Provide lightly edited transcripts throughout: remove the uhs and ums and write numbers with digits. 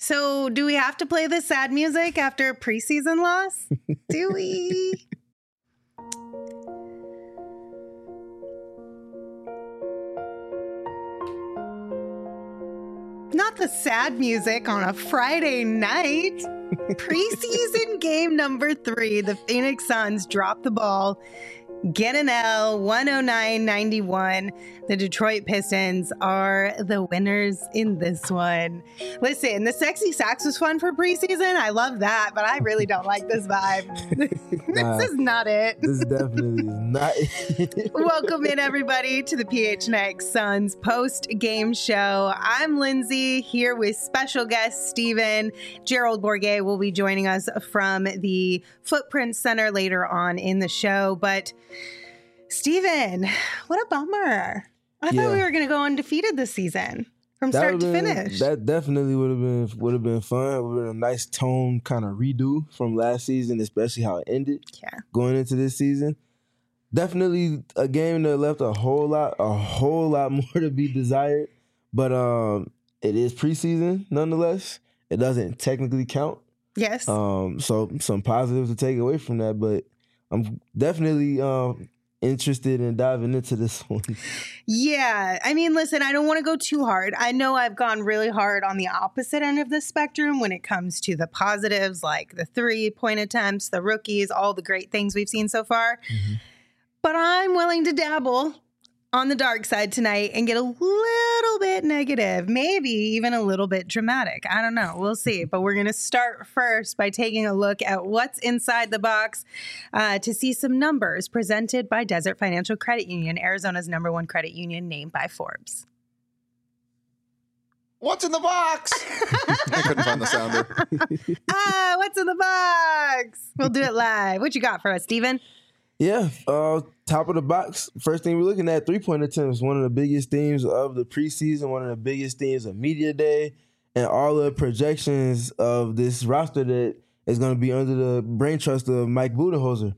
So do we have to play the sad music after a preseason loss? Do we? Not the sad music on a Friday night. Preseason game number 3, the Phoenix Suns drop the ball, get an L, 109-91. The Detroit Pistons are the winners in this one. Listen, the sexy sax was fun for preseason. I love that, but I really don't like this vibe. This is not it. This definitely is not it. Welcome in, everybody, to the PHNX Suns post-game show. I'm Lindsay, here with special guest Steven. Gerald Bourguet will be joining us from the Footprint Center later on in the show. But Steven, what a bummer. I thought we were going to go undefeated this season from start to finish. That definitely would have been fun. It would have been a nice tone kind of redo from last season, especially how it ended going into this season. Definitely a game that left a whole lot more to be desired. But it is preseason nonetheless. It doesn't technically count. Yes. So some positives to take away from that, but I'm definitely interested in diving into this one. Yeah. I mean, listen, I don't want to go too hard. I know I've gone really hard on the opposite end of the spectrum when it comes to the positives, like the 3-point attempts, the rookies, all the great things we've seen so far. Mm-hmm. But I'm willing to dabble on the dark side tonight and get a little bit negative, maybe even a little bit dramatic. I don't know. We'll see. But we're going to start first by taking a look at what's inside the box to see some numbers presented by Desert Financial Credit Union, Arizona's #1 credit union, named by Forbes. What's in the box? I couldn't find the sounder. What's in the box? We'll do it live. What you got for us, Steven? Yeah, top of the box. First thing we're looking at, 3-point attempts. One of the biggest themes of the preseason, one of the biggest themes of media day, and all the projections of this roster that is going to be under the brain trust of Mike Budenholzer.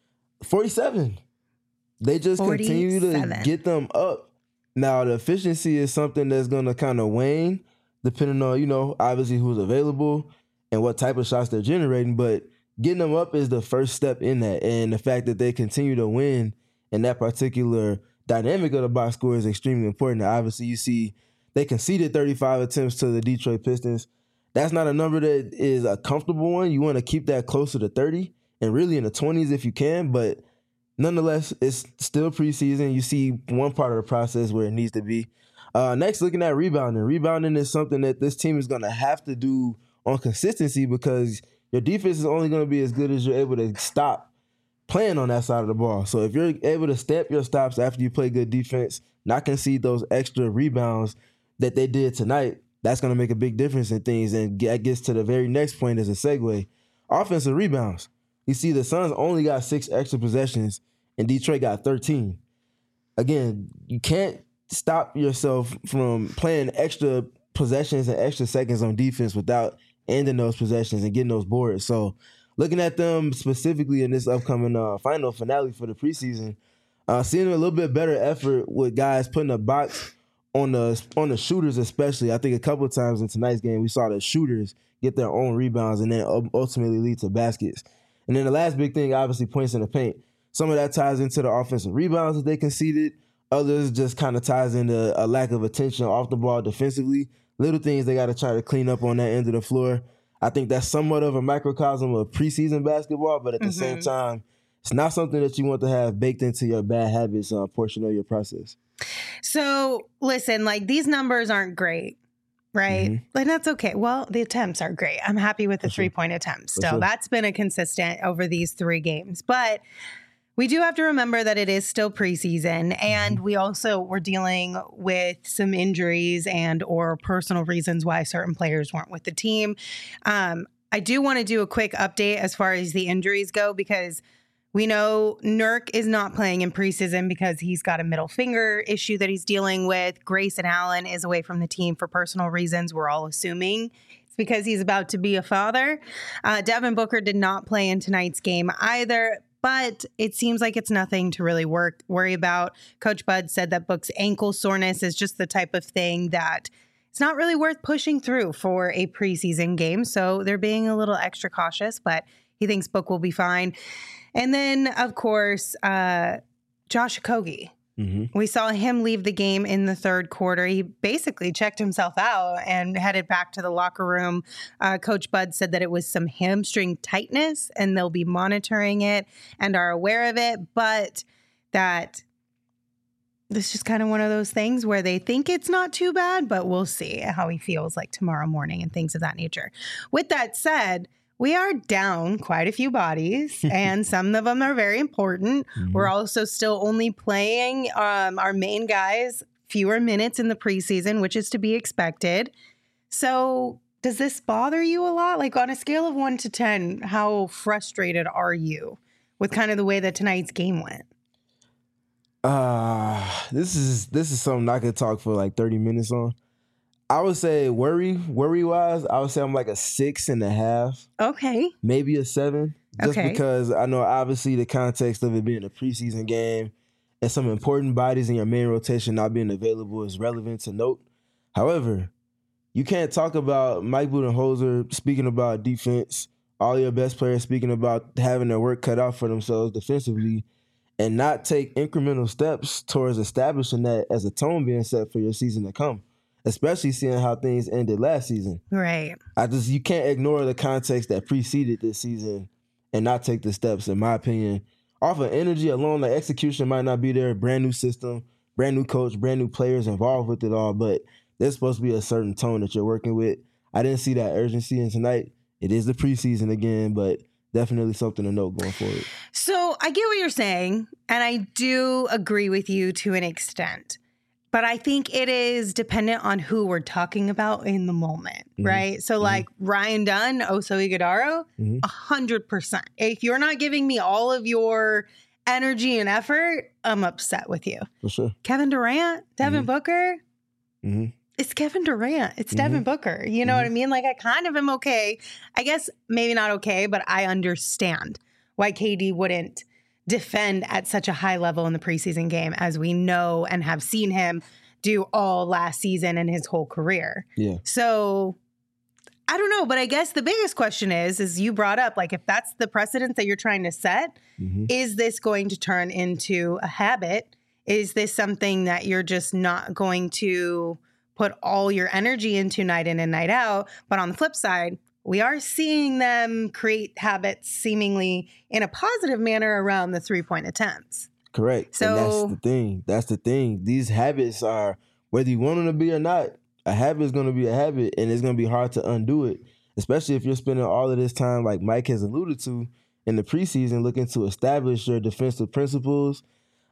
47. They just 47. continue to get them up. Now, the efficiency is something that's going to kind of wane, depending on, obviously who's available and what type of shots they're generating, but getting them up is the first step in that. And the fact that they continue to win in that particular dynamic of the box score is extremely important. Now, obviously, you see they conceded 35 attempts to the Detroit Pistons. That's not a number that is a comfortable one. You want to keep that closer to 30 and really in the 20s if you can. But nonetheless, it's still preseason. You see one part of the process where it needs to be. Next, looking at rebounding. Rebounding is something that this team is going to have to do on consistency because your defense is only going to be as good as you're able to stop playing on that side of the ball. So if you're able to step your stops after you play good defense, not concede those extra rebounds that they did tonight, that's going to make a big difference in things. And that gets to the very next point as a segue. Offensive rebounds. You see the Suns only got 6 extra possessions and Detroit got 13. Again, you can't stop yourself from playing extra possessions and extra seconds on defense without ending those possessions and getting those boards. So looking at them specifically in this upcoming final finale for the preseason, seeing a little bit better effort with guys putting a box on the shooters especially. I think a couple of times in tonight's game we saw the shooters get their own rebounds and then ultimately lead to baskets. And then the last big thing, obviously, points in the paint. Some of that ties into the offensive rebounds that they conceded. Others just kind of ties into a lack of attention off the ball defensively. Little things they got to try to clean up on that end of the floor. I think that's somewhat of a microcosm of preseason basketball, but at the same time, it's not something that you want to have baked into your bad habits portion of your process. So, listen, these numbers aren't great, right? Mm-hmm. And that's okay. Well, the attempts are great. I'm happy with the 3-point attempts. Still, that's been a consistent over these 3 games. But we do have to remember that it is still preseason, and we're dealing with some injuries and or personal reasons why certain players weren't with the team. I do want to do a quick update as far as the injuries go, because we know Nurk is not playing in preseason because he's got a middle finger issue that he's dealing with. Grayson Allen is away from the team for personal reasons. We're all assuming it's because he's about to be a father. Devin Booker did not play in tonight's game either, but it seems like it's nothing to really worry about. Coach Bud said that Book's ankle soreness is just the type of thing that it's not really worth pushing through for a preseason game. So they're being a little extra cautious, but he thinks Book will be fine. And then, of course, Josh Okogie. We saw him leave the game in the third quarter. He basically checked himself out and headed back to the locker room. Coach Bud said that it was some hamstring tightness and they'll be monitoring it and are aware of it, but that this is just kind of one of those things where they think it's not too bad, but we'll see how he feels like tomorrow morning and things of that nature. With that said, we are down quite a few bodies, and some of them are very important. We're also still only playing our main guys fewer minutes in the preseason, which is to be expected. So does this bother you a lot? Like on a scale of 1 to 10, how frustrated are you with kind of the way that tonight's game went? This is something I could talk for like 30 minutes on. I would say worry wise, I would say I'm like a 6.5. Okay. Maybe a 7. Just Okay. because I know obviously the context of it being a preseason game and some important bodies in your main rotation not being available is relevant to note. However, you can't talk about Mike Budenholzer speaking about defense, all your best players speaking about having their work cut out for themselves defensively, and not take incremental steps towards establishing that as a tone being set for your season to come. Especially seeing how things ended last season. Right. You can't ignore the context that preceded this season and not take the steps, in my opinion. Off of energy alone, like execution might not be there, brand new system, brand new coach, brand new players involved with it all, but there's supposed to be a certain tone that you're working with. I didn't see that urgency in tonight. It is the preseason again, but definitely something to note going forward. So I get what you're saying, and I do agree with you to an extent. But I think it is dependent on who we're talking about in the moment, right? So like Ryan Dunn, Oso Ighodaro, 100%. If you're not giving me all of your energy and effort, I'm upset with you. For sure. Kevin Durant, Devin Booker, it's Kevin Durant. It's Devin Booker. You know what I mean? Like I kind of am okay. I guess maybe not okay, but I understand why KD wouldn't defend at such a high level in the preseason game as we know and have seen him do all last season and his whole career. Yeah. So I don't know, but I guess the biggest question is you brought up, like, if that's the precedent that you're trying to set, is this going to turn into a habit? Is this something that you're just not going to put all your energy into night in and night out? But on the flip side, we are seeing them create habits seemingly in a positive manner around the 3-point attempts. Correct. So and that's the thing. These habits are, whether you want them to be or not, a habit is going to be a habit, and it's going to be hard to undo it, especially if you're spending all of this time, like Mike has alluded to, in the preseason looking to establish your defensive principles,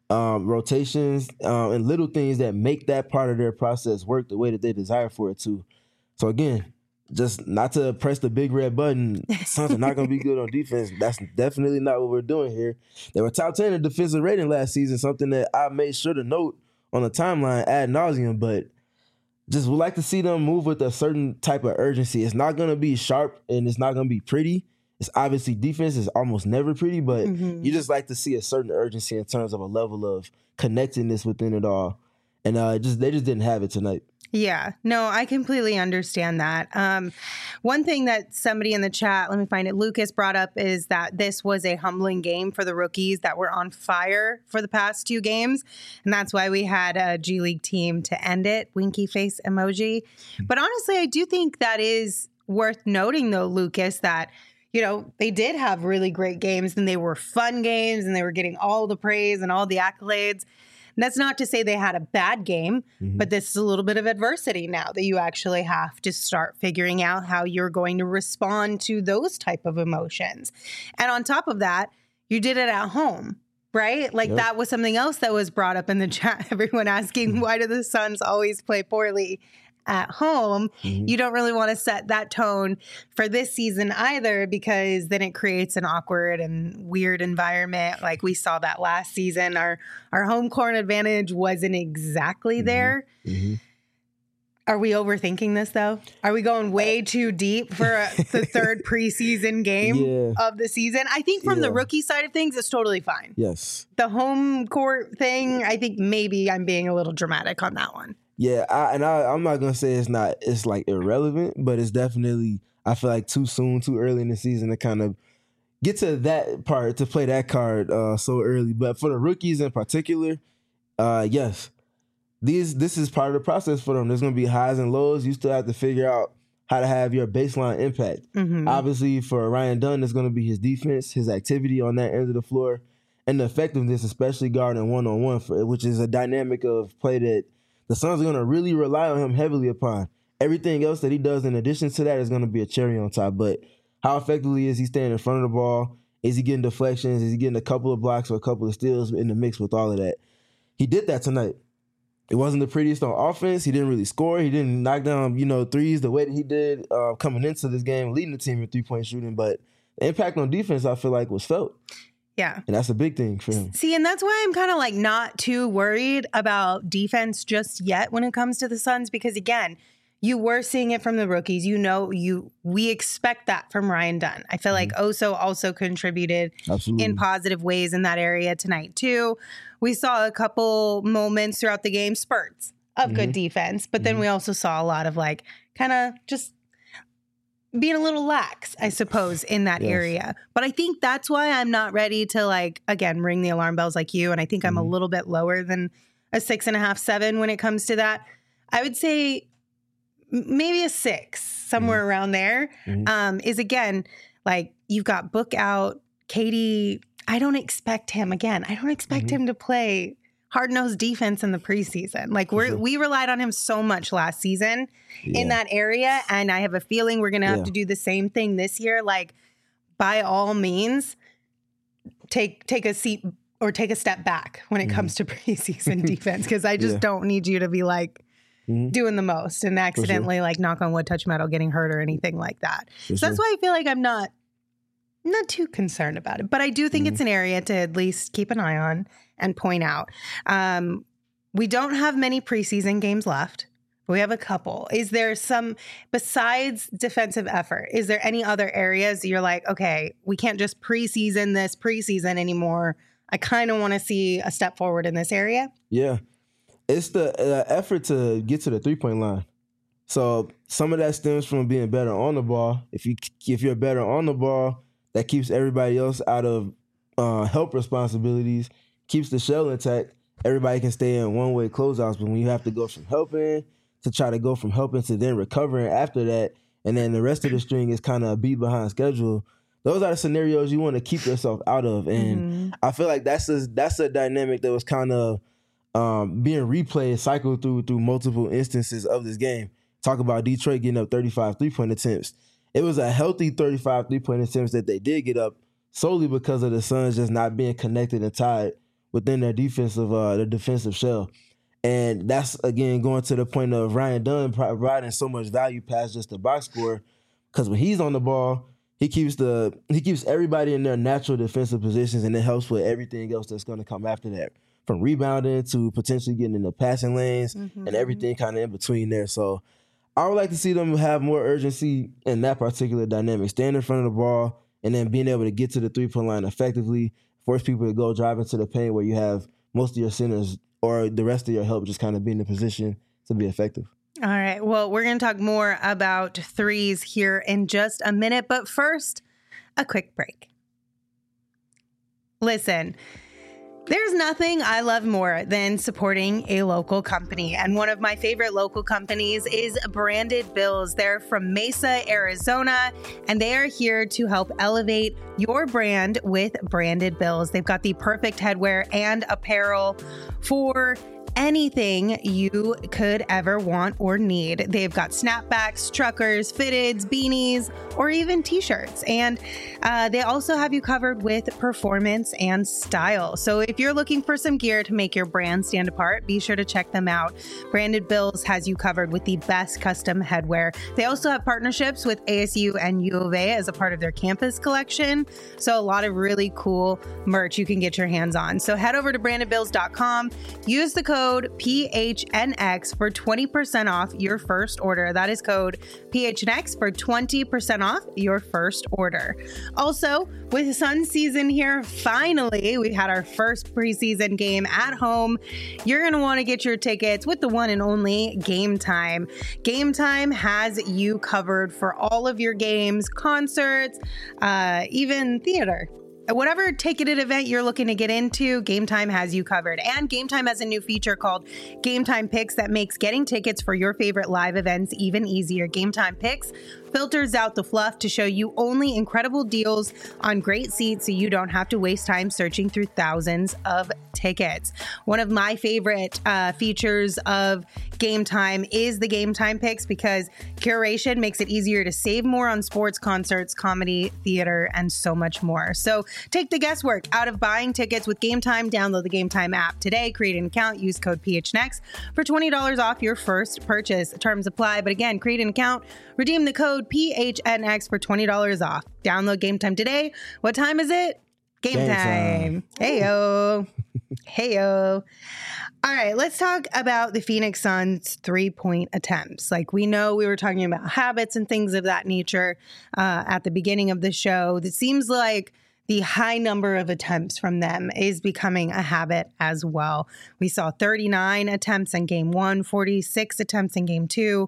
rotations, and little things that make that part of their process work the way that they desire for it to. So again, just not to press the big red button, Suns are not going to be good on defense. That's definitely not what we're doing here. They were top 10 in defensive rating last season, something that I made sure to note on the timeline ad nauseum, but just would like to see them move with a certain type of urgency. It's not going to be sharp and it's not going to be pretty. It's obviously defense is almost never pretty, but you just like to see a certain urgency in terms of a level of connectedness within it all. And they just didn't have it tonight. Yeah, no, I completely understand that. One thing that somebody in the chat, let me find it, Lucas brought up is that this was a humbling game for the rookies that were on fire for the past 2 games. And that's why we had a G League team to end it, winky face emoji. But honestly, I do think that is worth noting though, Lucas, that you know, they did have really great games and they were fun games and they were getting all the praise and all the accolades. And that's not to say they had a bad game, but this is a little bit of adversity now that you actually have to start figuring out how you're going to respond to those type of emotions. And on top of that, you did it at home, right? Like that was something else that was brought up in the chat. Everyone asking, why do the Suns always play poorly at home? You don't really want to set that tone for this season either, because then it creates an awkward and weird environment. Like we saw that last season, our home court advantage wasn't exactly there. Are we overthinking this though? Are we going way too deep for the third preseason game of the season? I think from the rookie side of things, it's totally fine. Yes. The home court thing, I think maybe I'm being a little dramatic on that one. Yeah, I'm not gonna say it's like irrelevant, but it's definitely, I feel like, too soon, too early in the season to kind of get to that part, to play that card so early. But for the rookies in particular, yes, this is part of the process for them. There's gonna be highs and lows. You still have to figure out how to have your baseline impact. Obviously, for Ryan Dunn, it's gonna be his defense, his activity on that end of the floor, and the effectiveness, especially guarding one-on-one, which is a dynamic of play that the Suns are going to really rely on him heavily upon. Everything else that he does in addition to that is going to be a cherry on top. But how effectively is he staying in front of the ball? Is he getting deflections? Is he getting a couple of blocks or a couple of steals in the mix with all of that? He did that tonight. It wasn't the prettiest on offense. He didn't really score. He didn't knock down, threes the way that he did coming into this game, leading the team in three-point shooting. But the impact on defense, I feel like, was felt. Yeah. And that's a big thing for him. See, and that's why I'm kind of like not too worried about defense just yet when it comes to the Suns, because again, you were seeing it from the rookies. We expect that from Ryan Dunn. I feel like Oso also contributed in positive ways in that area tonight too. We saw a couple moments throughout the game, spurts of good defense, but then we also saw a lot of like kind of just being a little lax, I suppose, in that area. But I think that's why I'm not ready to, like, again, ring the alarm bells like you. And I think I'm a little bit lower than a 6.5, 7 when it comes to that. I would say maybe a 6, somewhere around there. Is again, like, you've got Book out, Katie. I don't expect him him to play hard-nosed defense in the preseason. Like we relied on him so much last season in that area. And I have a feeling we're going to have to do the same thing this year. Like, by all means, take a seat or take a step back when it comes to preseason defense. Cause I just don't need you to be like doing the most and accidentally like knock on wood, touch metal, getting hurt or anything like that. So that's why I feel like I'm not too concerned about it, but I do think it's an area to at least keep an eye on and point out. We don't have many preseason games left. We have a couple. Is there some, besides defensive effort, is there any other areas you're like, okay, we can't just preseason anymore. I kind of want to see a step forward in this area. Yeah. It's the effort to get to the three-point line. So some of that stems from being better on the ball. If you're better on the ball, that keeps everybody else out of help responsibilities, keeps the shell intact. Everybody can stay in one-way closeouts, but when you have to go from helping to try to go from helping to then recovering after that, and then the rest of the string is kind of a beat behind schedule, those are the scenarios you want to keep yourself out of. And I feel like that's a dynamic that was kind of being replayed, cycled through multiple instances of this game. Talk about Detroit getting up 35 three-point attempts. It was a healthy 35 three-point attempts that they did get up solely because of the Suns just not being connected and tied within their defensive shell. And that's, again, going to the point of Ryan Dunn providing so much value past just the box score, because when he's on the ball, he keeps everybody in their natural defensive positions, and it helps with everything else that's going to come after that, from rebounding to potentially getting in the passing lanes and everything kind of in between there. So I would like to see them have more urgency in that particular dynamic, stand in front of the ball and then being able to get to the three-point line effectively, force people to go drive into the paint where you have most of your centers or the rest of your help just kind of be in a position to be effective. All right. Well, we're going to talk more about threes here in just a minute, but first, a quick break. Listen, there's nothing I love more than supporting a local company. And one of my favorite local companies is Branded Bills. They're from Mesa, Arizona, and they are here to help elevate your brand with Branded Bills. They've got the perfect headwear and apparel for anything you could ever want or need. They've got snapbacks, truckers, fitteds, beanies, or even t-shirts. And they also have you covered with performance and style. So if you're looking for some gear to make your brand stand apart, be sure to check them out. Branded Bills has you covered with the best custom headwear. They also have partnerships with ASU and U of A as a part of their campus collection. So a lot of really cool merch you can get your hands on. So head over to brandedbills.com, use the code code PHNX for 20% off your first order. That is code PHNX for 20% off your first order. Also, with Sun season here, finally, we had our first preseason game at home. You're going to want to get your tickets with the one and only Game Time. Game Time has you covered for all of your games, concerts, even theater. Whatever ticketed event you're looking to get into, Game Time has you covered. And Game Time has a new feature called Game Time Picks that makes getting tickets for your favorite live events even easier. Game Time Picks filters out the fluff to show you only incredible deals on great seats so you don't have to waste time searching through thousands of tickets. One of my favorite features of Game Time is the Game Time Picks because curation makes it easier to save more on sports, concerts, comedy, theater, and so much more. So take the guesswork out of buying tickets with Game Time. Download the Game Time app today, create an account, use code PHNX for $20 off your first purchase. Terms apply, but again, create an account, redeem the code PHNX for $20 off. Download Game Time today. What time is it? Game time. Heyo. Heyo. All right, let's talk about the Phoenix Suns 3-point attempts. Like we know we were talking about habits and things of that nature at the beginning of the show. It seems like the high number of attempts from them is becoming a habit as well. We saw 39 attempts in game 1, 46 attempts in game 2,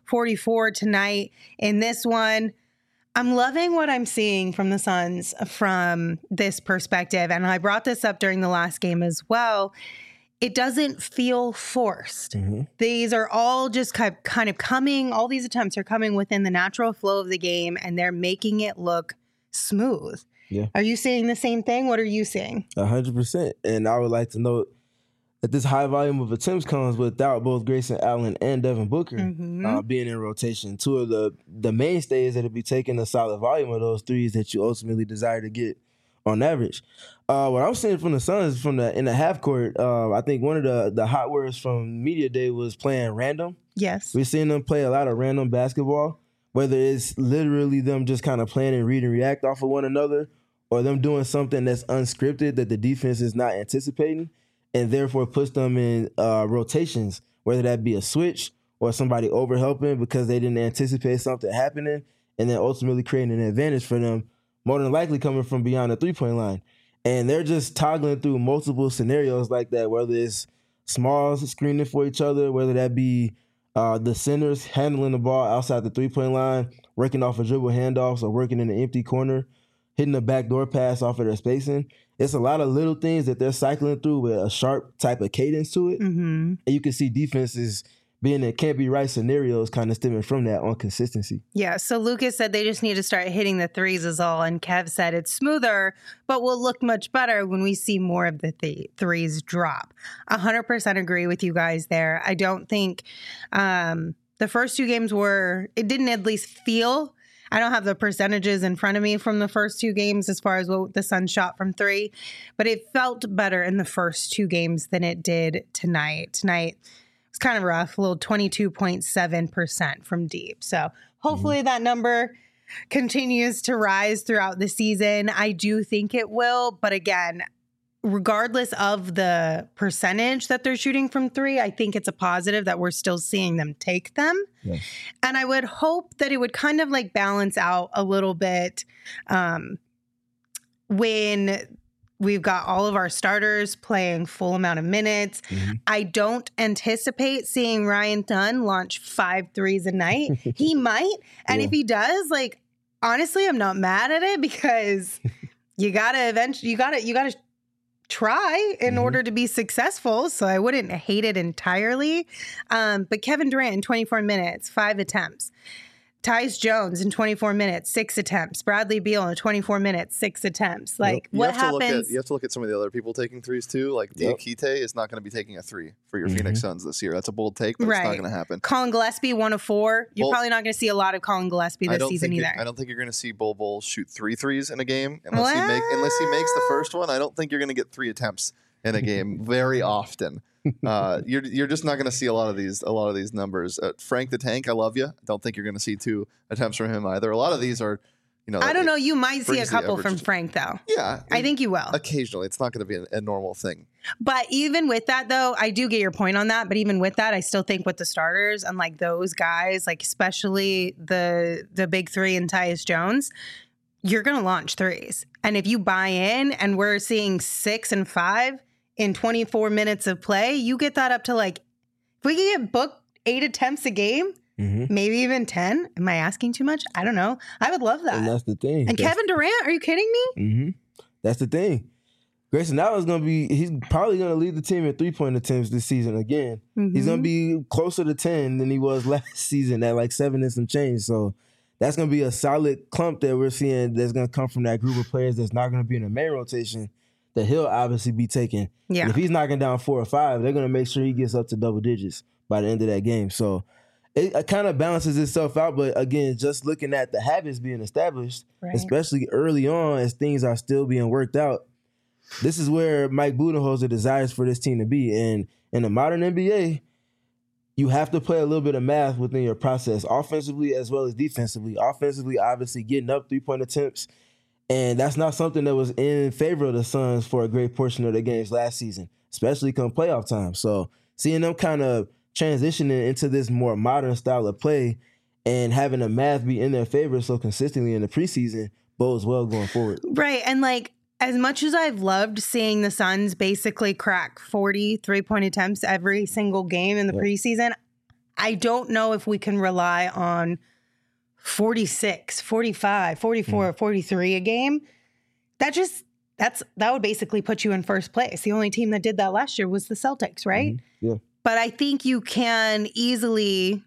44 tonight. In this one, I'm loving what I'm seeing from the Suns from this perspective. And I brought this up during the last game as well. It doesn't feel forced. Mm-hmm. These are all just kind of coming, all these attempts are coming within the natural flow of the game, and they're making it look smooth. Yeah. Are you seeing the same thing? What are you seeing? 100%. And I would like to note that this high volume of attempts comes without both Grayson Allen and Devin Booker being in rotation. Two of the mainstays that will be taking a solid volume of those threes that you ultimately desire to get on average. What I'm seeing from the Suns in the half court, I think one of the hot words from Media Day was playing random. Yes. We're seeing them play a lot of random basketball, whether it's literally them just kind of playing and read and react off of one another, or them doing something that's unscripted that the defense is not anticipating, and therefore puts them in rotations, whether that be a switch or somebody overhelping because they didn't anticipate something happening, and then ultimately creating an advantage for them, more than likely coming from beyond the three-point line. And they're just toggling through multiple scenarios like that, whether it's smalls screening for each other, whether that be the centers handling the ball outside the three-point line, working off of dribble handoffs or working in the empty corner, hitting a backdoor pass off of their spacing. It's a lot of little things that they're cycling through with a sharp type of cadence to it. Mm-hmm. And you can see defenses being in can't-be-right scenarios kind of stemming from that on consistency. Yeah, so Lucas said they just need to start hitting the threes is all, and Kev said it's smoother, but will look much better when we see more of the threes drop. 100% agree with you guys there. I don't think the first two games it didn't at least feel, I don't have the percentages in front of me from the first two games as far as what the Suns shot from three, but it felt better in the first two games than it did tonight. Tonight, it's kind of rough, a little 22.7% from deep. So hopefully that number continues to rise throughout the season. I do think it will. But again, regardless of the percentage that they're shooting from three, I think it's a positive that we're still seeing them take them. Yes. And I would hope that it would kind of like balance out a little bit when we've got all of our starters playing full amount of minutes. Mm-hmm. I don't anticipate seeing Ryan Dunn launch 5 threes a night. He might. And if he does, like, honestly, I'm not mad at it because you got to try in order to be successful. So I wouldn't hate it entirely. But Kevin Durant in 24 minutes, 5 attempts. Tyus Jones in 24 minutes, 6 attempts. Bradley Beal in 24 minutes, 6 attempts. Like, what happens? You have to look at some of the other people taking threes, too. Like, Diakite is not going to be taking a 3 for your Phoenix Suns this year. That's a bold take, but it's not going to happen. Colin Gillespie, 1 of 4. You're probably not going to see a lot of Colin Gillespie this season either. I don't think you're going to see Bol shoot 3 threes in a game. Unless he makes the first one, I don't think you're going to get 3 attempts in a game very often. You're just not going to see a lot of these numbers. Frank the Tank, I love you. I don't think you're going to see 2 attempts from him either. A lot of these are, I don't know. You might see a couple from Frank though. Yeah, I think you will. Occasionally, it's not going to be a normal thing. But even with that, though, I do get your point on that. But even with that, I still think with the starters and like those guys, like especially the big three and Tyus Jones, you're going to launch threes. And if you buy in and we're seeing 6 and 5 in 24 minutes of play, you get that up to like, if we can get booked 8 attempts a game, maybe even 10. Am I asking too much? I don't know. I would love that. And that's the thing. And Kevin Durant, are you kidding me? That's the thing. Grayson Allen's he's probably going to lead the team in 3-point attempts this season again. He's going to be closer to 10 than he was last season at like 7 and some change. So that's going to be a solid clump that we're seeing that's going to come from that group of players that's not going to be in the main rotation that he'll obviously be taking. Yeah. And if he's knocking down 4 or 5, they're going to make sure he gets up to double digits by the end of that game. So it kind of balances itself out. But again, just looking at the habits being established, especially early on as things are still being worked out, this is where Mike Budenholzer desires for this team to be. And in the modern NBA, you have to play a little bit of math within your process, offensively as well as defensively. Offensively, obviously, getting up 3-point attempts. And that's not something that was in favor of the Suns for a great portion of the games last season, especially come playoff time. So seeing them kind of transitioning into this more modern style of play and having the math be in their favor so consistently in the preseason bodes well going forward. Right. And like, as much as I've loved seeing the Suns basically crack 40 3-point attempts every single game in the preseason, I don't know if we can rely on 46, 45, 44, 43 a game. That would basically put you in first place. The only team that did that last year was the Celtics, right? Yeah. But I think you can easily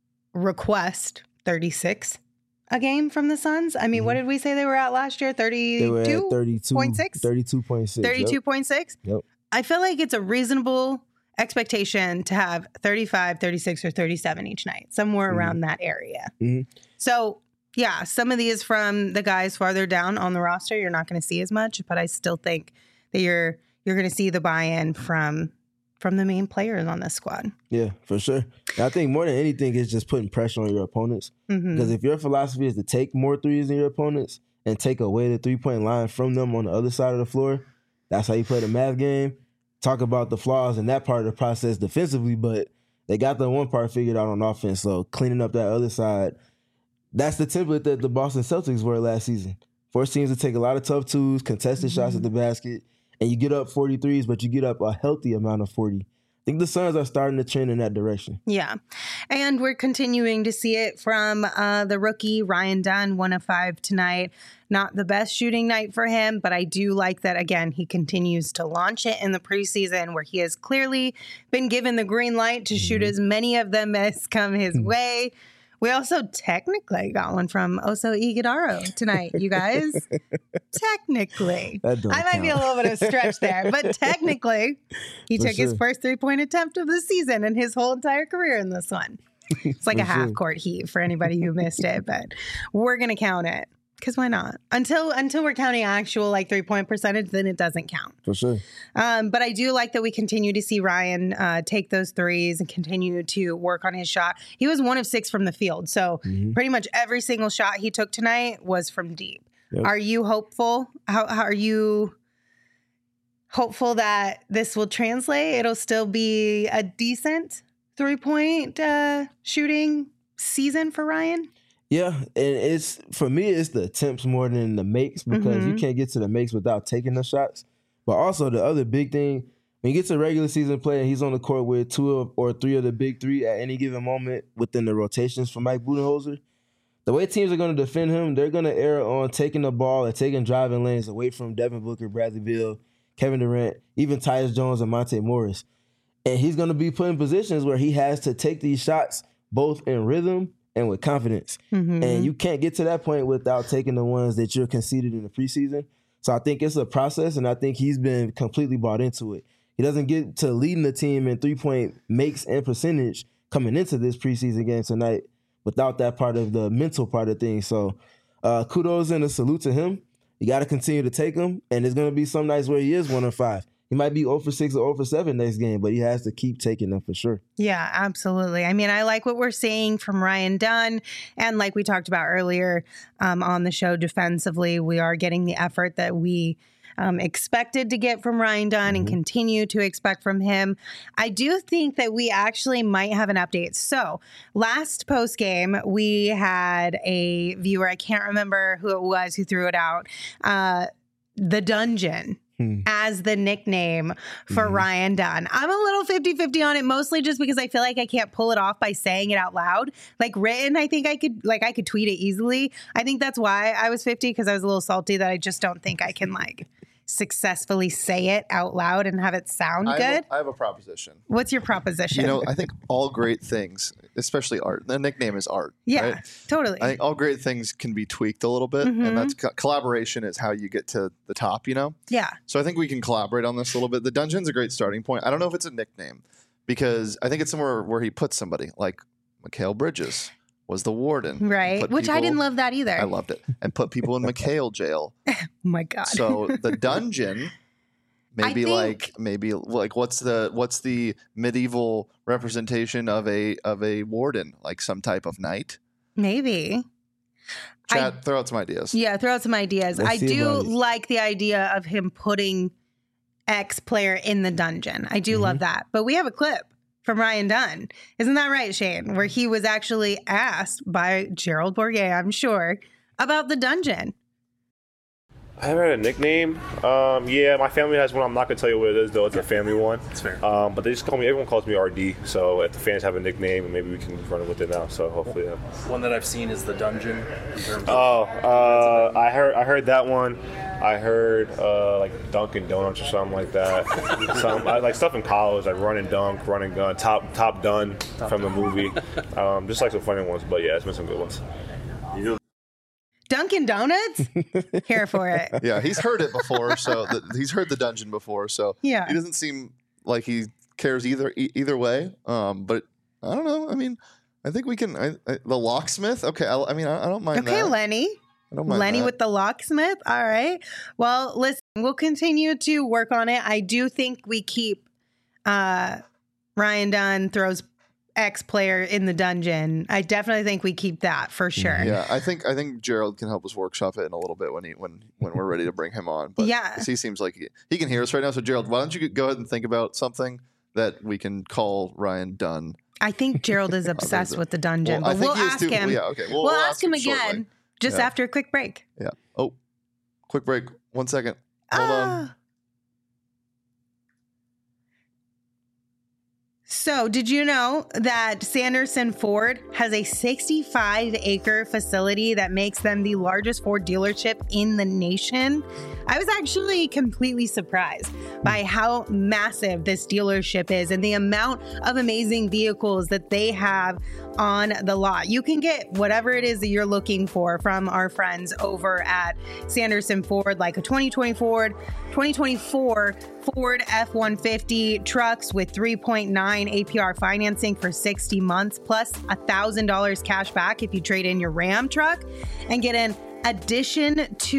request 36 a game from the Suns. I mean, what did we say they were at last year? 32? They were at 32.6. 32.6. 32.6? Yep. I feel like it's a reasonable expectation to have 35, 36, or 37 each night, somewhere around that area. So, yeah, some of these from the guys farther down on the roster, you're not going to see as much, but I still think that you're going to see the buy-in from the main players on this squad. Yeah, for sure. I think more than anything, it's just putting pressure on your opponents. Because if your philosophy is to take more threes than your opponents and take away the 3-point line from them on the other side of the floor, that's how you play the math game. Talk about the flaws in that part of the process defensively, but they got the one part figured out on offense. So cleaning up that other side, that's the template that the Boston Celtics were last season. Force teams to take a lot of tough twos, contested shots at the basket, and you get up 43s, but you get up a healthy amount of 40. I think the Suns are starting to trend in that direction. Yeah. And we're continuing to see it from the rookie, Ryan Dunn, 1 of 5 tonight. Not the best shooting night for him, but I do like that, again, he continues to launch it in the preseason where he has clearly been given the green light to shoot as many of them as come his way. We also technically got one from Oso Iguodaro tonight, you guys. Technically. I might be a little bit of a stretch there, but technically he took his first 3-point attempt of the season and his whole entire career in this one. It's like a half-court heave for anybody who missed it, but we're going to count it. Because why not? Until we're counting actual like 3-point percentage, then it doesn't count. For sure. But I do like that we continue to see Ryan take those threes and continue to work on his shot. He was 1 of 6 from the field. So pretty much every single shot he took tonight was from deep. Yep. Are you hopeful? How are you hopeful that this will translate? It'll still be a decent 3-point shooting season for Ryan? Yeah, and for me, it's the attempts more than the makes because you can't get to the makes without taking the shots. But also the other big thing, when you get to regular season play and he's on the court with 2 or 3 of the big 3 at any given moment within the rotations for Mike Budenholzer, the way teams are going to defend him, they're going to err on taking the ball and taking driving lanes away from Devin Booker, Bradley Beal, Kevin Durant, even Tyus Jones and Monte Morris. And he's going to be put in positions where he has to take these shots both in rhythm and with confidence. And you can't get to that point without taking the ones that you're conceded in the preseason. So I think it's a process, and I think he's been completely bought into it. He doesn't get to leading the team in 3-point makes and percentage coming into this preseason game tonight without that part of the mental part of things. So kudos and a salute to him. You got to continue to take him, and there's going to be some nights where he is 1 of 5. He might be 0 for 6 or 0 for 7 next game, but he has to keep taking them for sure. Yeah, absolutely. I mean, I like what we're seeing from Ryan Dunn. And like we talked about earlier on the show, defensively, we are getting the effort that we expected to get from Ryan Dunn and continue to expect from him. I do think that we actually might have an update. So last post game, we had a viewer, I can't remember who it was who threw it out, the Dungeon as the nickname for Ryan Dunn. I'm a little 50-50 on it, mostly just because I feel like I can't pull it off by saying it out loud. Like written, I think I could tweet it easily. I think that's why I was 50, because I was a little salty that I just don't think I can successfully say it out loud and have it sound good. I have a proposition. What's your proposition? I think all great things, especially art, the nickname is art. Yeah, right? totally. I think all great things can be tweaked a little bit, and that's collaboration is how you get to the top, Yeah. So I think we can collaborate on this a little bit. The Dungeon's a great starting point. I don't know if it's a nickname, because I think it's somewhere where he puts somebody, like Mikal Bridges was the warden. Right, which I didn't love that either. I loved it. And put people in McHale jail. Oh my God. So the Dungeon, maybe what's the medieval representation of a warden, like some type of knight? Maybe. Chat, throw out some ideas. Yeah, throw out some ideas. I do like the idea of him putting X player in the Dungeon. I do love that. But we have a clip from Ryan Dunn. Isn't that right, Shane? Where he was actually asked by Gerald Bourguet, I'm sure, about the Dungeon. I haven't had a nickname. Yeah, my family has one. I'm not going to tell you what it is, though. It's a family one. That's fair. But they just call me, everyone calls me RD. So if the fans have a nickname, maybe we can run with it now. So hopefully. One that I've seen is the Dungeon. In terms of I heard that one. I heard like Dunkin' Donuts or something like that. Like stuff in college, like run and dunk, run and gun, top done from the movie. Just like some funny ones, but yeah, it's been some good ones. Dunkin' Donuts? Here for it. Yeah, he's heard it before, so he's heard the Dungeon before, so yeah. He doesn't seem like he cares either way. But I don't know. I mean, I think we can. The locksmith. Okay, I don't mind that. Okay, Lenny. I don't mind Lenny that. with the locksmith. All right. Well, listen, we'll continue to work on it. I do think we keep Ryan Dunn throws X player in the Dungeon. I definitely think we keep that for sure. Yeah, I think Gerald can help us workshop it in a little bit when we're ready to bring him on. But yeah, he seems like he can hear us right now. So Gerald, why don't you go ahead and think about something that we can call Ryan Dunn? I think Gerald is obsessed with the Dungeon, but we'll ask him. Yeah, okay. We'll ask him again shortly. just after a quick break. Yeah. Oh, quick break. 1 second. Hold on. So, did you know that Sanderson Ford has a 65-acre facility that makes them the largest Ford dealership in the nation? I was actually completely surprised by how massive this dealership is and the amount of amazing vehicles that they have on the lot. You can get whatever it is that you're looking for from our friends over at Sanderson Ford, like a 2024 Ford F-150 trucks with 3.9 APR financing for 60 months, plus $1,000 cash back if you trade in your Ram truck and get an additional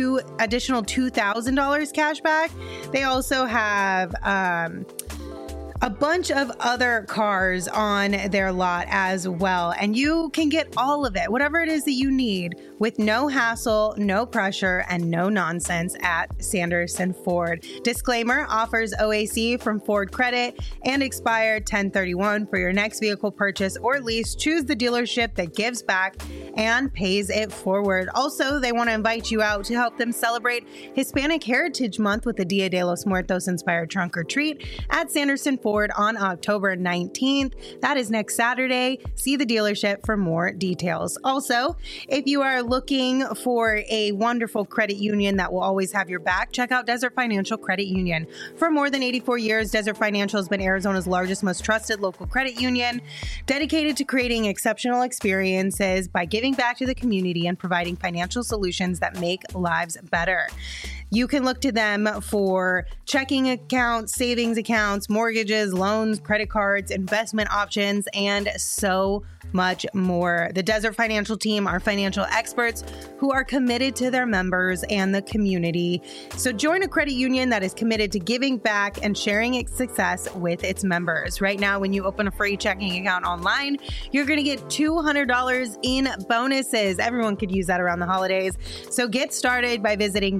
$2,000 cash back. They also have a bunch of other cars on their lot as well. And you can get all of it, whatever it is that you need, with no hassle, no pressure, and no nonsense at Sanderson Ford. Disclaimer, offers OAC from Ford Credit and expired 10/31. For your next vehicle purchase or lease, choose the dealership that gives back and pays it forward. Also, they want to invite you out to help them celebrate Hispanic Heritage Month with the Dia de los Muertos inspired trunk or treat at Sanderson Ford on October 19th. That is next Saturday. See the dealership for more details. Also, if you are looking for a wonderful credit union that will always have your back, check out Desert Financial Credit Union. For more than 84 years, Desert Financial has been Arizona's largest, most trusted local credit union, dedicated to creating exceptional experiences by giving back to the community and providing financial solutions that make lives better. You can look to them for checking accounts, savings accounts, mortgages, loans, credit cards, investment options, and so much more. The Desert Financial team are financial experts who are committed to their members and the community. So join a credit union that is committed to giving back and sharing its success with its members. Right now, when you open a free checking account online, you're going to get $200 in bonuses. Everyone could use that around the holidays. So get started by visiting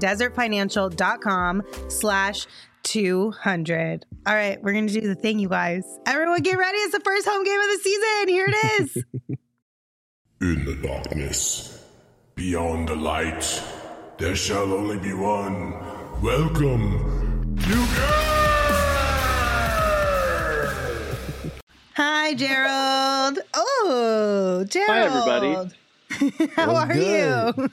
desertfinancial.com/200. All right, we're going to do the thing, you guys. Everyone get ready. It's the first home game of the season. Here it is. In the darkness, beyond the light, there shall only be one. Welcome to Hi, Gerald. Oh, Gerald. Hi, everybody. How are you?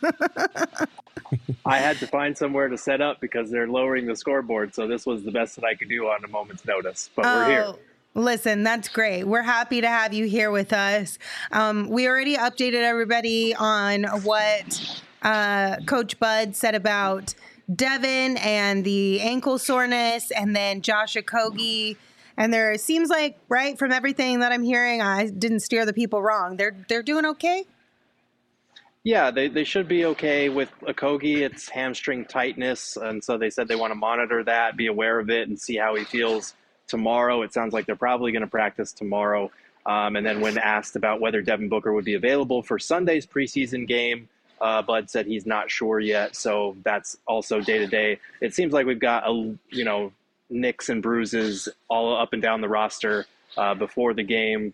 I had to find somewhere to set up because they're lowering the scoreboard, so this was the best that I could do on a moment's notice. But we're here. Listen, that's great. We're happy to have you here with us. We already updated everybody on what Coach Bud said about Devin and the ankle soreness, and then Josh Okogie. And there seems like, right, from everything that I'm hearing, I didn't steer the people wrong. They're doing okay? Yeah, they should be okay with Okogie. It's hamstring tightness, and so they said they want to monitor that, be aware of it, and see how he feels tomorrow. It sounds like they're probably going to practice tomorrow. And then when asked about whether Devin Booker would be available for Sunday's preseason game, Bud said he's not sure yet, so that's also day-to-day. It seems like we've got, nicks and bruises all up and down the roster before the game.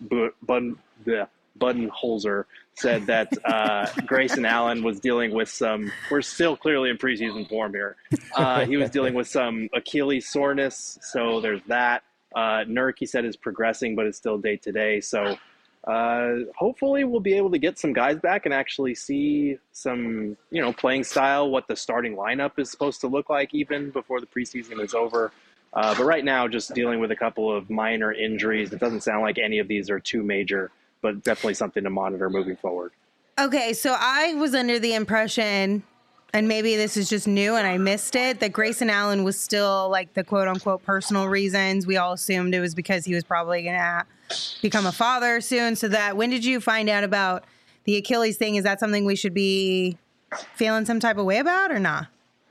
Budenholzer said that Grayson Allen was dealing with some – we're still clearly in preseason form here. He was dealing with some Achilles soreness, so there's that. Nurk, he said, is progressing, but it's still day-to-day. So hopefully we'll be able to get some guys back and actually see some, playing style, what the starting lineup is supposed to look like even before the preseason is over. But right now, just dealing with a couple of minor injuries. It doesn't sound like any of these are too major, but definitely something to monitor moving forward. Okay, so I was under the impression, and maybe this is just new and I missed it, that Grayson Allen was still like the quote-unquote personal reasons. We all assumed it was because he was probably going to become a father soon. So that, when did you find out about the Achilles thing? Is that something we should be feeling some type of way about or not?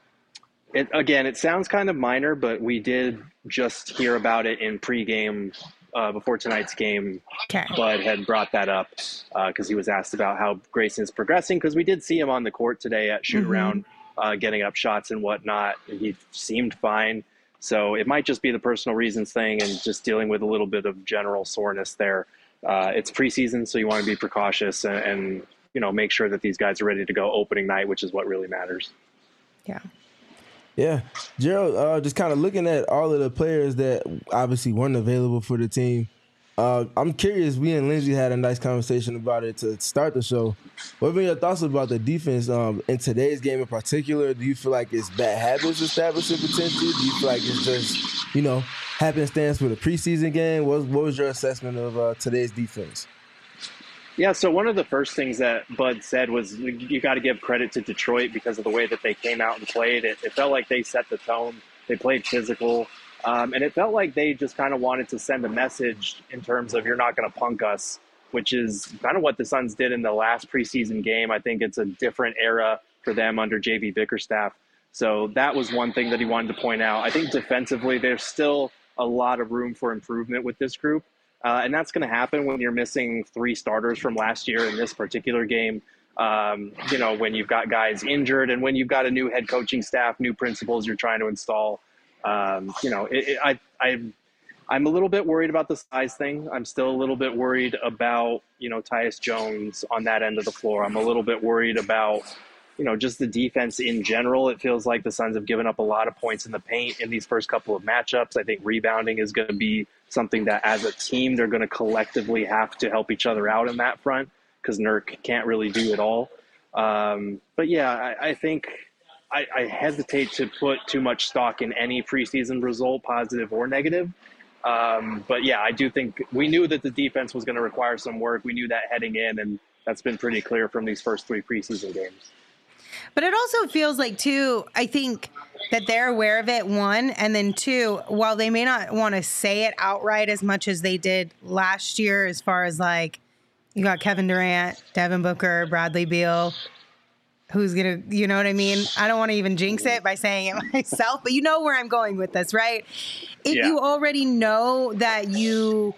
It sounds kind of minor, but we did just hear about it in pregame before tonight's game. Okay. Bud had brought that up because he was asked about how Grayson is progressing, because we did see him on the court today at shoot around, getting up shots and whatnot. He seemed fine. So it might just be the personal reasons thing and just dealing with a little bit of general soreness there. It's preseason, so you want to be precautious and make sure that these guys are ready to go opening night, which is what really matters. Yeah. Yeah. Gerald, just kind of looking at all of the players that obviously weren't available for the team, I'm curious, we and Lindsay had a nice conversation about it to start the show. What have been your thoughts about the defense in today's game in particular? Do you feel like it's bad habits establishing potential? Do you feel like it's just, happenstance with a preseason game? What was your assessment of today's defense? Yeah, so one of the first things that Bud said was you got to give credit to Detroit because of the way that they came out and played. It felt like they set the tone. They played physical. And it felt like they just kind of wanted to send a message in terms of you're not going to punk us, which is kind of what the Suns did in the last preseason game. I think it's a different era for them under JV Bickerstaff. So that was one thing that he wanted to point out. I think defensively, there's still a lot of room for improvement with this group. And that's going to happen when you're missing 3 starters from last year in this particular game. When you've got guys injured and when you've got a new head coaching staff, new principals you're trying to install. I'm a little bit worried about the size thing. I'm still a little bit worried about, Tyus Jones on that end of the floor. I'm a little bit worried about, just the defense in general. It feels like the Suns have given up a lot of points in the paint in these first couple of matchups. I think rebounding is going to be something that as a team, they're going to collectively have to help each other out in that front because Nurk can't really do it all. But yeah, I think I hesitate to put too much stock in any preseason result, positive or negative. But yeah, I do think we knew that the defense was going to require some work. We knew that heading in, and that's been pretty clear from these first 3 preseason games. But it also feels like, too, I think that they're aware of it, 1, and then 2, while they may not want to say it outright as much as they did last year as far as, like, You got Kevin Durant, Devin Booker, Bradley Beal. Who's going to, you know what I mean? I don't want to even jinx it by saying it myself, but you know where I'm going with this, right? If you already know that you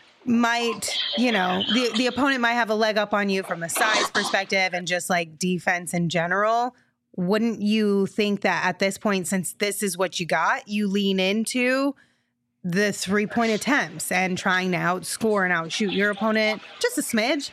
might, you know, the opponent might have a leg up on you from a size perspective and just like defense in general, wouldn't you think that at this point, since this is what you got, you lean into the 3-point attempts and trying to outscore and outshoot your opponent just a smidge?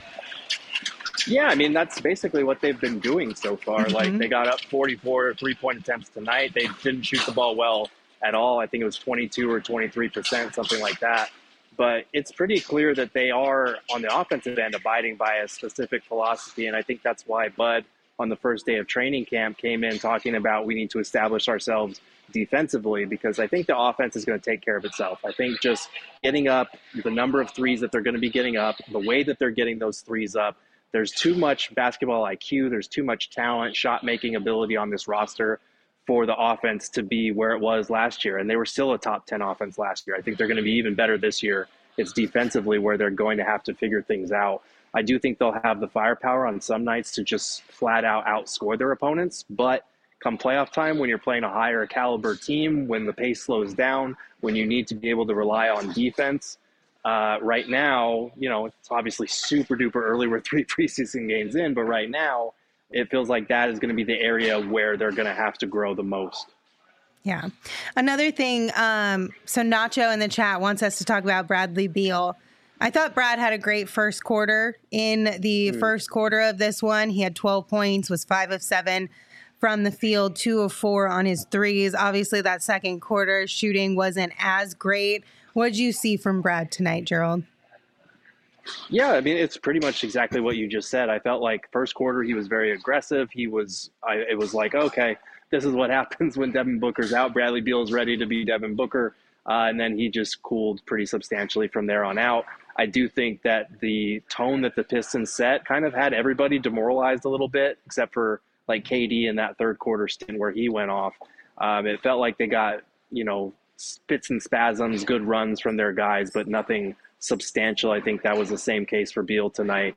Yeah, I mean, that's basically what they've been doing so far. Like, they got up 44 3-point attempts tonight. They didn't shoot the ball well at all. I think it was 22 or 23%, something like that. But it's pretty clear that they are, on the offensive end, abiding by a specific philosophy. And I think that's why Bud, on the first day of training camp, came in talking about we need to establish ourselves defensively, because I think the offense is going to take care of itself. I think just getting up, the number of threes that they're going to be getting up, the way that they're getting those threes up, there's too much basketball IQ, there's too much talent, shot-making ability on this roster for the offense to be where it was last year. And they were still a top 10 offense last year. I think they're going to be even better this year. It's defensively where they're going to have to figure things out. I do think they'll have the firepower on some nights to just flat out outscore their opponents. But come playoff time, when you're playing a higher caliber team, when the pace slows down, when you need to be able to rely on defense, right now, you know, it's obviously super duper early. We're 3 preseason games in, but right now it feels like that is going to be the area where they're going to have to grow the most. Yeah. Another thing, so Nacho in the chat wants us to talk about Bradley Beal. I thought Brad had a great first quarter. In the first quarter of this one, he had 12 points, was 5 of 7 from the field, 2 of 4 on his threes. Obviously, that second quarter shooting wasn't as great. What did you see from Brad tonight, Gerald? Yeah, I mean, it's pretty much exactly what you just said. I felt like first quarter he was very aggressive. It was like, okay, this is what happens when Devin Booker's out. Bradley Beal is ready to be Devin Booker. And then he just cooled pretty substantially from there on out. I do think that the tone that the Pistons set kind of had everybody demoralized a little bit, except for like KD in that third quarter stint where he went off. It felt like they got, you know, spits and spasms, good runs from their guys, but nothing substantial. I think that was the same case for Beal tonight.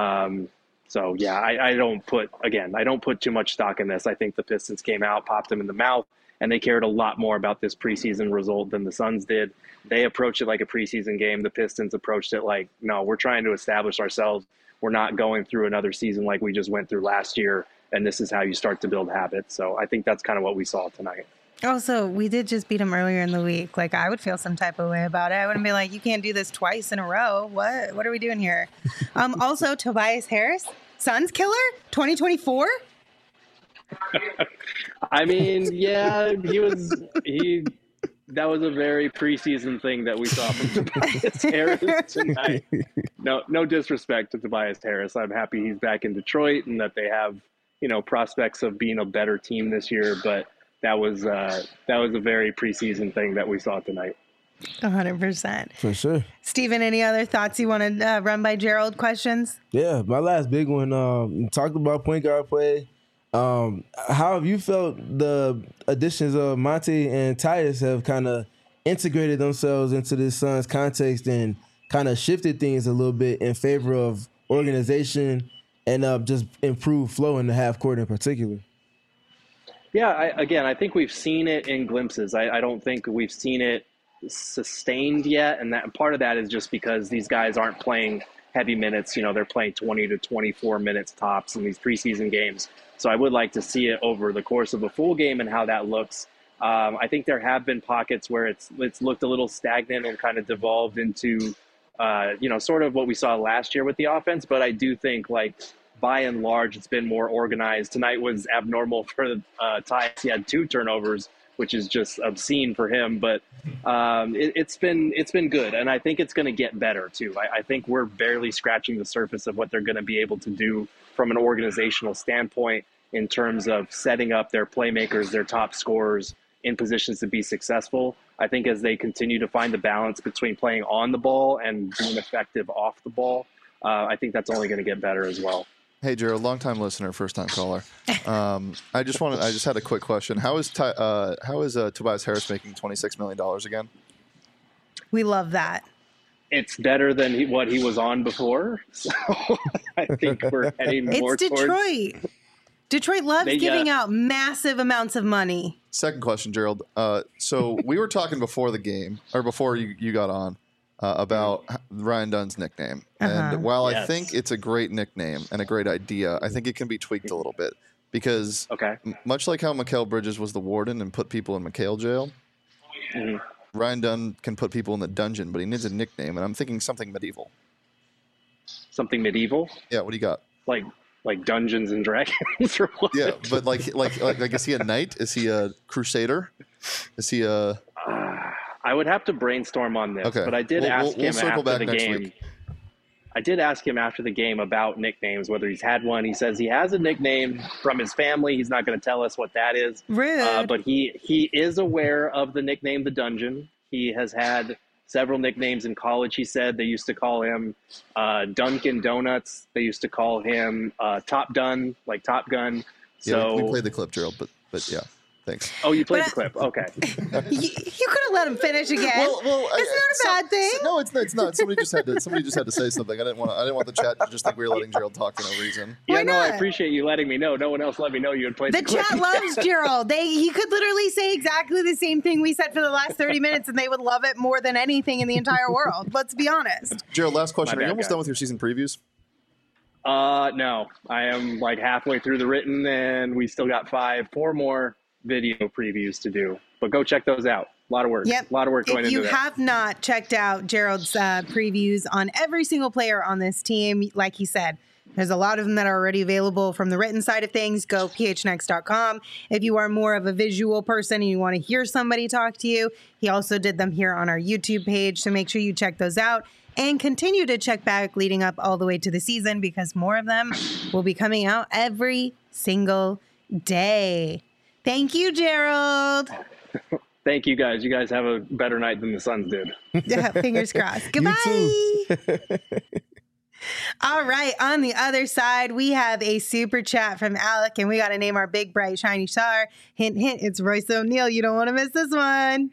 So yeah, I don't put too much stock in this. I think the Pistons came out, popped them in the mouth, and they cared a lot more about this preseason result than the Suns did. They approached it like a preseason game. The Pistons approached it like, no, we're trying to establish ourselves. We're not going through another season like we just went through last year, and this is how you start to build habits. So I think that's kind of what we saw tonight. Also, we did just beat him earlier in the week. Like, I would feel some type of way about it. I wouldn't be like, you can't do this twice in a row. What are we doing here? Also, Tobias Harris, Suns killer, 2024. I mean, yeah, that was a very preseason thing that we saw from Tobias Harris tonight. No disrespect to Tobias Harris. I'm happy he's back in Detroit and that they have, you know, prospects of being a better team this year. But that was a very preseason thing that we saw tonight. 100%. For sure. Steven, any other thoughts you want to run by Gerald? Questions? Yeah, my last big one, talked about point guard play. How have you felt the additions of Monty and Tyus have kind of integrated themselves into this Suns context and kind of shifted things a little bit in favor of organization and just improved flow in the half court in particular? Yeah, I think we've seen it in glimpses. I don't think we've seen it sustained yet, and that part of that is just because these guys aren't playing heavy minutes. You know, they're playing 20 to 24 minutes tops in these preseason games. So I would like to see it over the course of a full game and how that looks. I think there have been pockets where it's looked a little stagnant and kind of devolved into, sort of what we saw last year with the offense. But I do think, like, by and large, it's been more organized. Tonight was abnormal for Tyus. He had 2 turnovers, which is just obscene for him. But it's been good, and I think it's going to get better too. I think we're barely scratching the surface of what they're going to be able to do from an organizational standpoint in terms of setting up their playmakers, their top scorers in positions to be successful. I think as they continue to find the balance between playing on the ball and being effective off the ball, I think that's only going to get better as well. Hey, Gerald, long-time listener, first-time caller. I just had a quick question. How is Tobias Harris making $26 million again? We love that. it's better than what he was on before. So I think we're heading more It's Detroit. Detroit loves giving out massive amounts of money. Second question, Gerald. So we were talking before the game, or before you got on, about Ryan Dunn's nickname. And while I think it's a great nickname and a great idea, I think it can be tweaked a little bit. Because much like how Mikal Bridges was the warden and put people in McHale jail, Ryan Dunn can put people in the dungeon, but he needs a nickname, and I'm thinking something medieval. Something medieval? Yeah, what do you got? Like Dungeons and Dragons or what? Yeah, but like is he a knight? Is he a crusader? Is he a... I would have to brainstorm on this, but I did ask him after the game. I did ask him after the game about nicknames, whether he's had one. He says he has a nickname from his family. He's not going to tell us what that is. Rude. But he is aware of the nickname The Dungeon. He has had several nicknames in college. He said they used to call him Dunkin' Donuts. They used to call him Top Dun, like Top Gun. So we played the clip, Gerald, but yeah. Thanks. Oh, you played the clip. Okay. You could have let him finish again. Well, it's not a bad thing. No, it's not. Somebody just had to say something. I didn't want the chat to just think we were letting Gerald talk for no reason. Yeah, no, I appreciate you letting me know. No one else let me know you had played the clip. The chat loves Gerald. He could literally say exactly the same thing we said for the last 30 minutes, and they would love it more than anything in the entire world. Let's be honest. Gerald, last question. Are you almost done with your season previews? No. I am like halfway through the written, and we still got 4 more video previews to do, but go check those out. A lot of work. Yep. A lot of work going into that. If you have not checked out Gerald's previews on every single player on this team, like he said, there's a lot of them that are already available from the written side of things. Go phnx.com. If you are more of a visual person and you want to hear somebody talk to you, he also did them here on our YouTube page. So make sure you check those out and continue to check back leading up all the way to the season, because more of them will be coming out every single day. Thank you, Gerald. Thank you, guys. You guys have a better night than the Suns did. Yeah, fingers crossed. Goodbye. All right. On the other side, we have a super chat from Alec, and we got to name our big, bright, shiny star. Hint, hint, it's Royce O'Neal. You don't want to miss this one.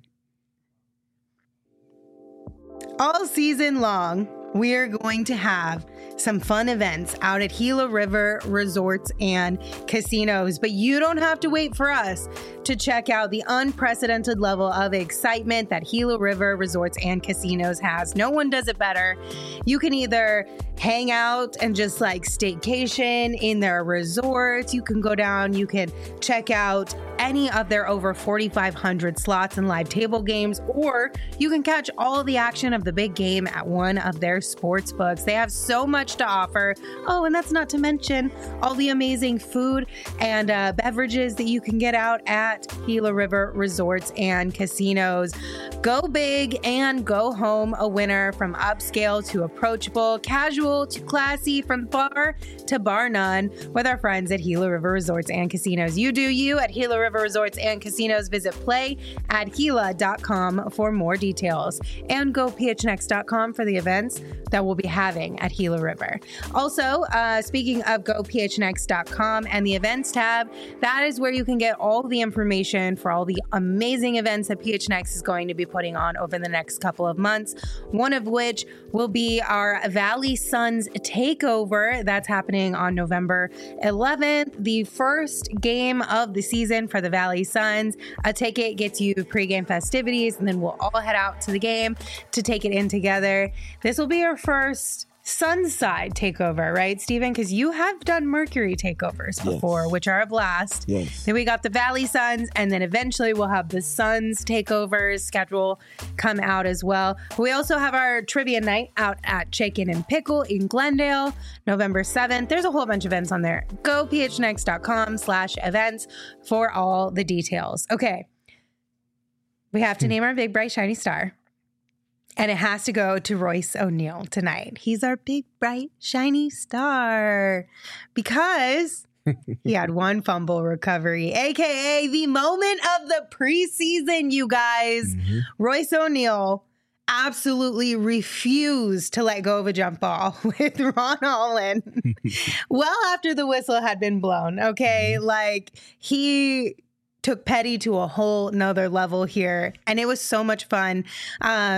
All season long, we're going to have some fun events out at Gila River Resorts and Casinos, but you don't have to wait for us to check out the unprecedented level of excitement that Gila River Resorts and Casinos has. No one does it better. You can either hang out and just like staycation in their resorts. You can go down, you can check out any of their over 4,500 slots and live table games, or you can catch all the action of the big game at one of their sports books. They have so much to offer. Oh, and that's not to mention all the amazing food and beverages that you can get out at Gila River Resorts and Casinos. Go big and go home a winner, from upscale to approachable, casual to classy, from bar to bar none, with our friends at Gila River Resorts and Casinos. You do you at Gila River Resorts and Casinos. Visit play@Gila.com for more details, and go phnx.com for the events that we'll be having at Gila River. Also, speaking of gophnx.com and the events tab, that is where you can get all the information for all the amazing events that PHNX is going to be putting on over the next couple of months, one of which will be our Valley Suns takeover. That's happening on November 11th, the first game of the season for the Valley Suns. A ticket gets you pregame festivities, and then we'll all head out to the game to take it in together. This will be our first Sunside takeover, right, Steven? Because you have done Mercury takeovers before, which are a blast. Yes. Then we got the Valley Suns, and then eventually we'll have the Suns takeovers schedule come out as well. We also have our trivia night out at Chicken and Pickle in Glendale, November 7th. There's a whole bunch of events on there. Go phnx.com/events for all the details. Okay. We have to name our big, bright, shiny star. And it has to go to Royce O'Neal tonight. He's our big, bright, shiny star because he had one fumble recovery, a.k.a. the moment of the preseason, you guys. Mm-hmm. Royce O'Neal absolutely refused to let go of a jump ball with Ron Holland well after the whistle had been blown, okay? Like, he took Petty to a whole nother level here, and it was so much fun.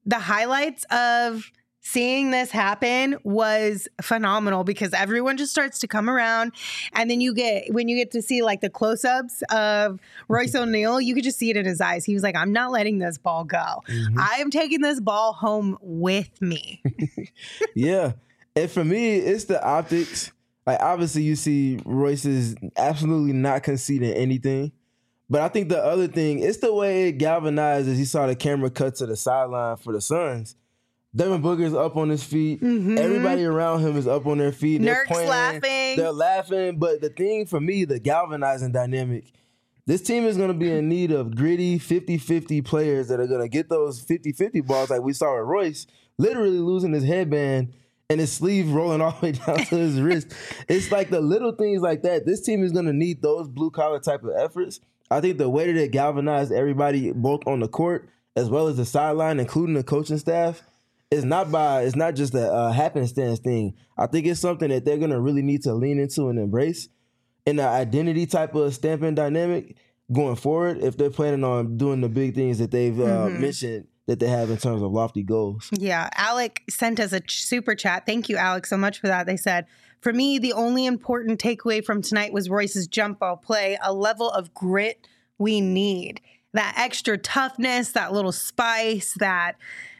the highlights of seeing this happen was phenomenal because everyone just starts to come around, and then when you get to see like the close-ups of Royce O'Neal, you could just see it in his eyes. He was like, I'm not letting this ball go. I am taking this ball home with me. Yeah. And for me, it's the optics. Like, obviously you see Royce is absolutely not conceding anything. But I think the other thing, it's the way it galvanized as you saw the camera cut to the sideline for the Suns. Devin Booker's up on his feet. Everybody around him is up on their feet. They're Nurk's laughing. They're laughing. But the thing for me, the galvanizing dynamic, this team is going to be in need of gritty 50-50 players that are going to get those 50-50 balls like we saw with Royce, literally losing his headband and his sleeve rolling all the way down to his wrist. It's like the little things like that. This team is going to need those blue-collar type of efforts. I think the way that it galvanized everybody both on the court as well as the sideline, including the coaching staff, it's not just a happenstance thing. I think it's something that they're going to really need to lean into and embrace in the identity type of stamping dynamic going forward if they're planning on doing the big things that they've mentioned that they have in terms of lofty goals. Yeah. Alec sent us a super chat. Thank you, Alec, so much for that. They said, for me, the only important takeaway from tonight was Royce's jump ball play, a level of grit we need. That extra toughness, that little spice, that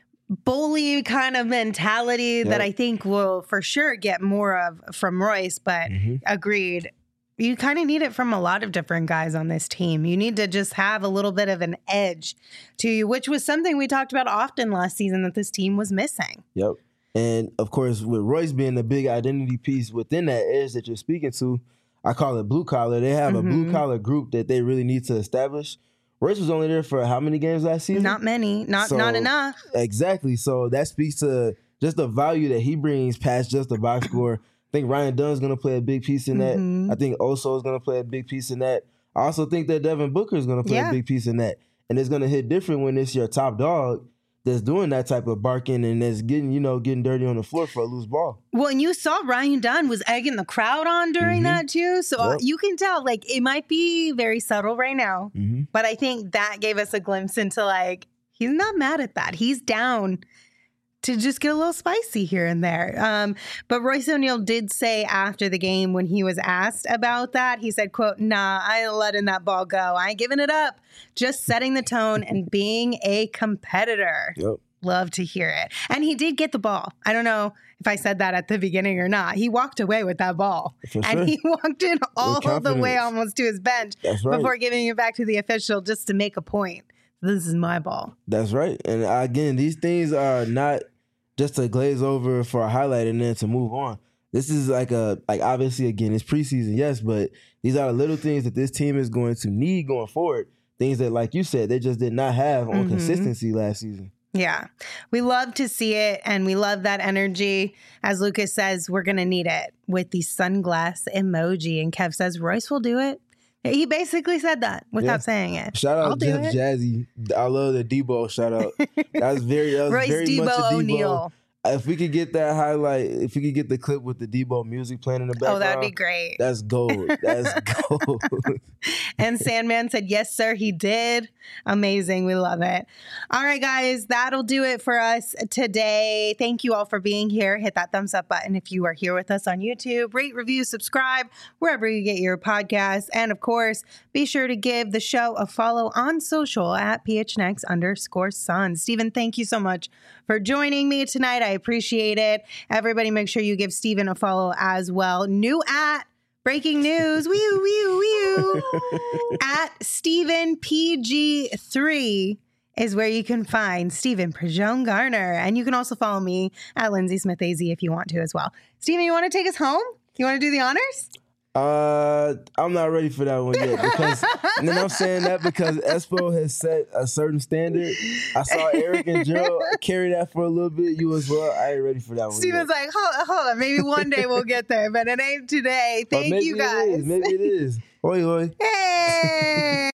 bully kind of mentality that I think we'll for sure get more of from Royce, but agreed. You kind of need it from a lot of different guys on this team. You need to just have a little bit of an edge to you, which was something we talked about often last season that this team was missing. Yep. And of course, with Royce being the big identity piece within that edge that you're speaking to, I call it blue collar. They have a blue collar group that they really need to establish. Royce was only there for how many games last season? Not many. Not enough. Exactly. So that speaks to just the value that he brings past just the box score. I think Ryan Dunn's going to play a big piece in that. I think Oso is going to play a big piece in that. I also think that Devin Booker is going to play a big piece in that. And it's going to hit different when it's your top dog that's doing that type of barking and that's getting dirty on the floor for a loose ball. Well, and you saw Ryan Dunn was egging the crowd on during that too. So you can tell, like, it might be very subtle right now, but I think that gave us a glimpse into, like, he's not mad at that. He's down to just get a little spicy here and there. But Royce O'Neal did say after the game when he was asked about that, he said, quote, "Nah, I ain't letting that ball go. I ain't giving it up. Just setting the tone and being a competitor." Yep. Love to hear it. And he did get the ball. I don't know if I said that at the beginning or not. He walked away with that ball. And he walked in all the way almost to his bench before giving it back to the official just to make a point. This is my ball. That's right. And again, these things are not just to glaze over for a highlight and then to move on. This is like obviously, again, it's preseason, yes, but these are the little things that this team is going to need going forward. Things that, like you said, they just did not have on consistency last season. Yeah. We love to see it, and we love that energy. As Lucas says, we're going to need it with the sunglass emoji. And Kev says, Royce will do it. He basically said that without saying it. Shout out Jeff Jazzy. I love the Debo shout out. That was very Royce very Debo much a Debo. O'Neal. If we could get that highlight, if we could get the clip with the Debo music playing in the background. Oh, that'd be great. That's gold. That's gold. And Sandman said, yes, sir, he did. Amazing. We love it. All right, guys, that'll do it for us today. Thank you all for being here. Hit that thumbs up button if you are here with us on YouTube. Rate, review, subscribe, wherever you get your podcasts. And of course, be sure to give the show a follow on social at PHNX_Suns. Steven, thank you so much for joining me tonight. I appreciate it. Everybody make sure you give Steven a follow as well. New at breaking news, at Steven PG3 is where you can find Steven Prejean Garner. And you can also follow me at Lindsay Smith AZ if you want to as well. Steven, you want to take us home? You want to do the honors? I'm not ready for that one yet because, and then I'm saying that because Espo has set a certain standard. I saw Eric and Gerald carry that for a little bit. You as well. I ain't ready for that one. Steven's like, hold on, maybe one day we'll get there, but it ain't today. Thank you guys. Maybe it is. Oi, oi. Hey.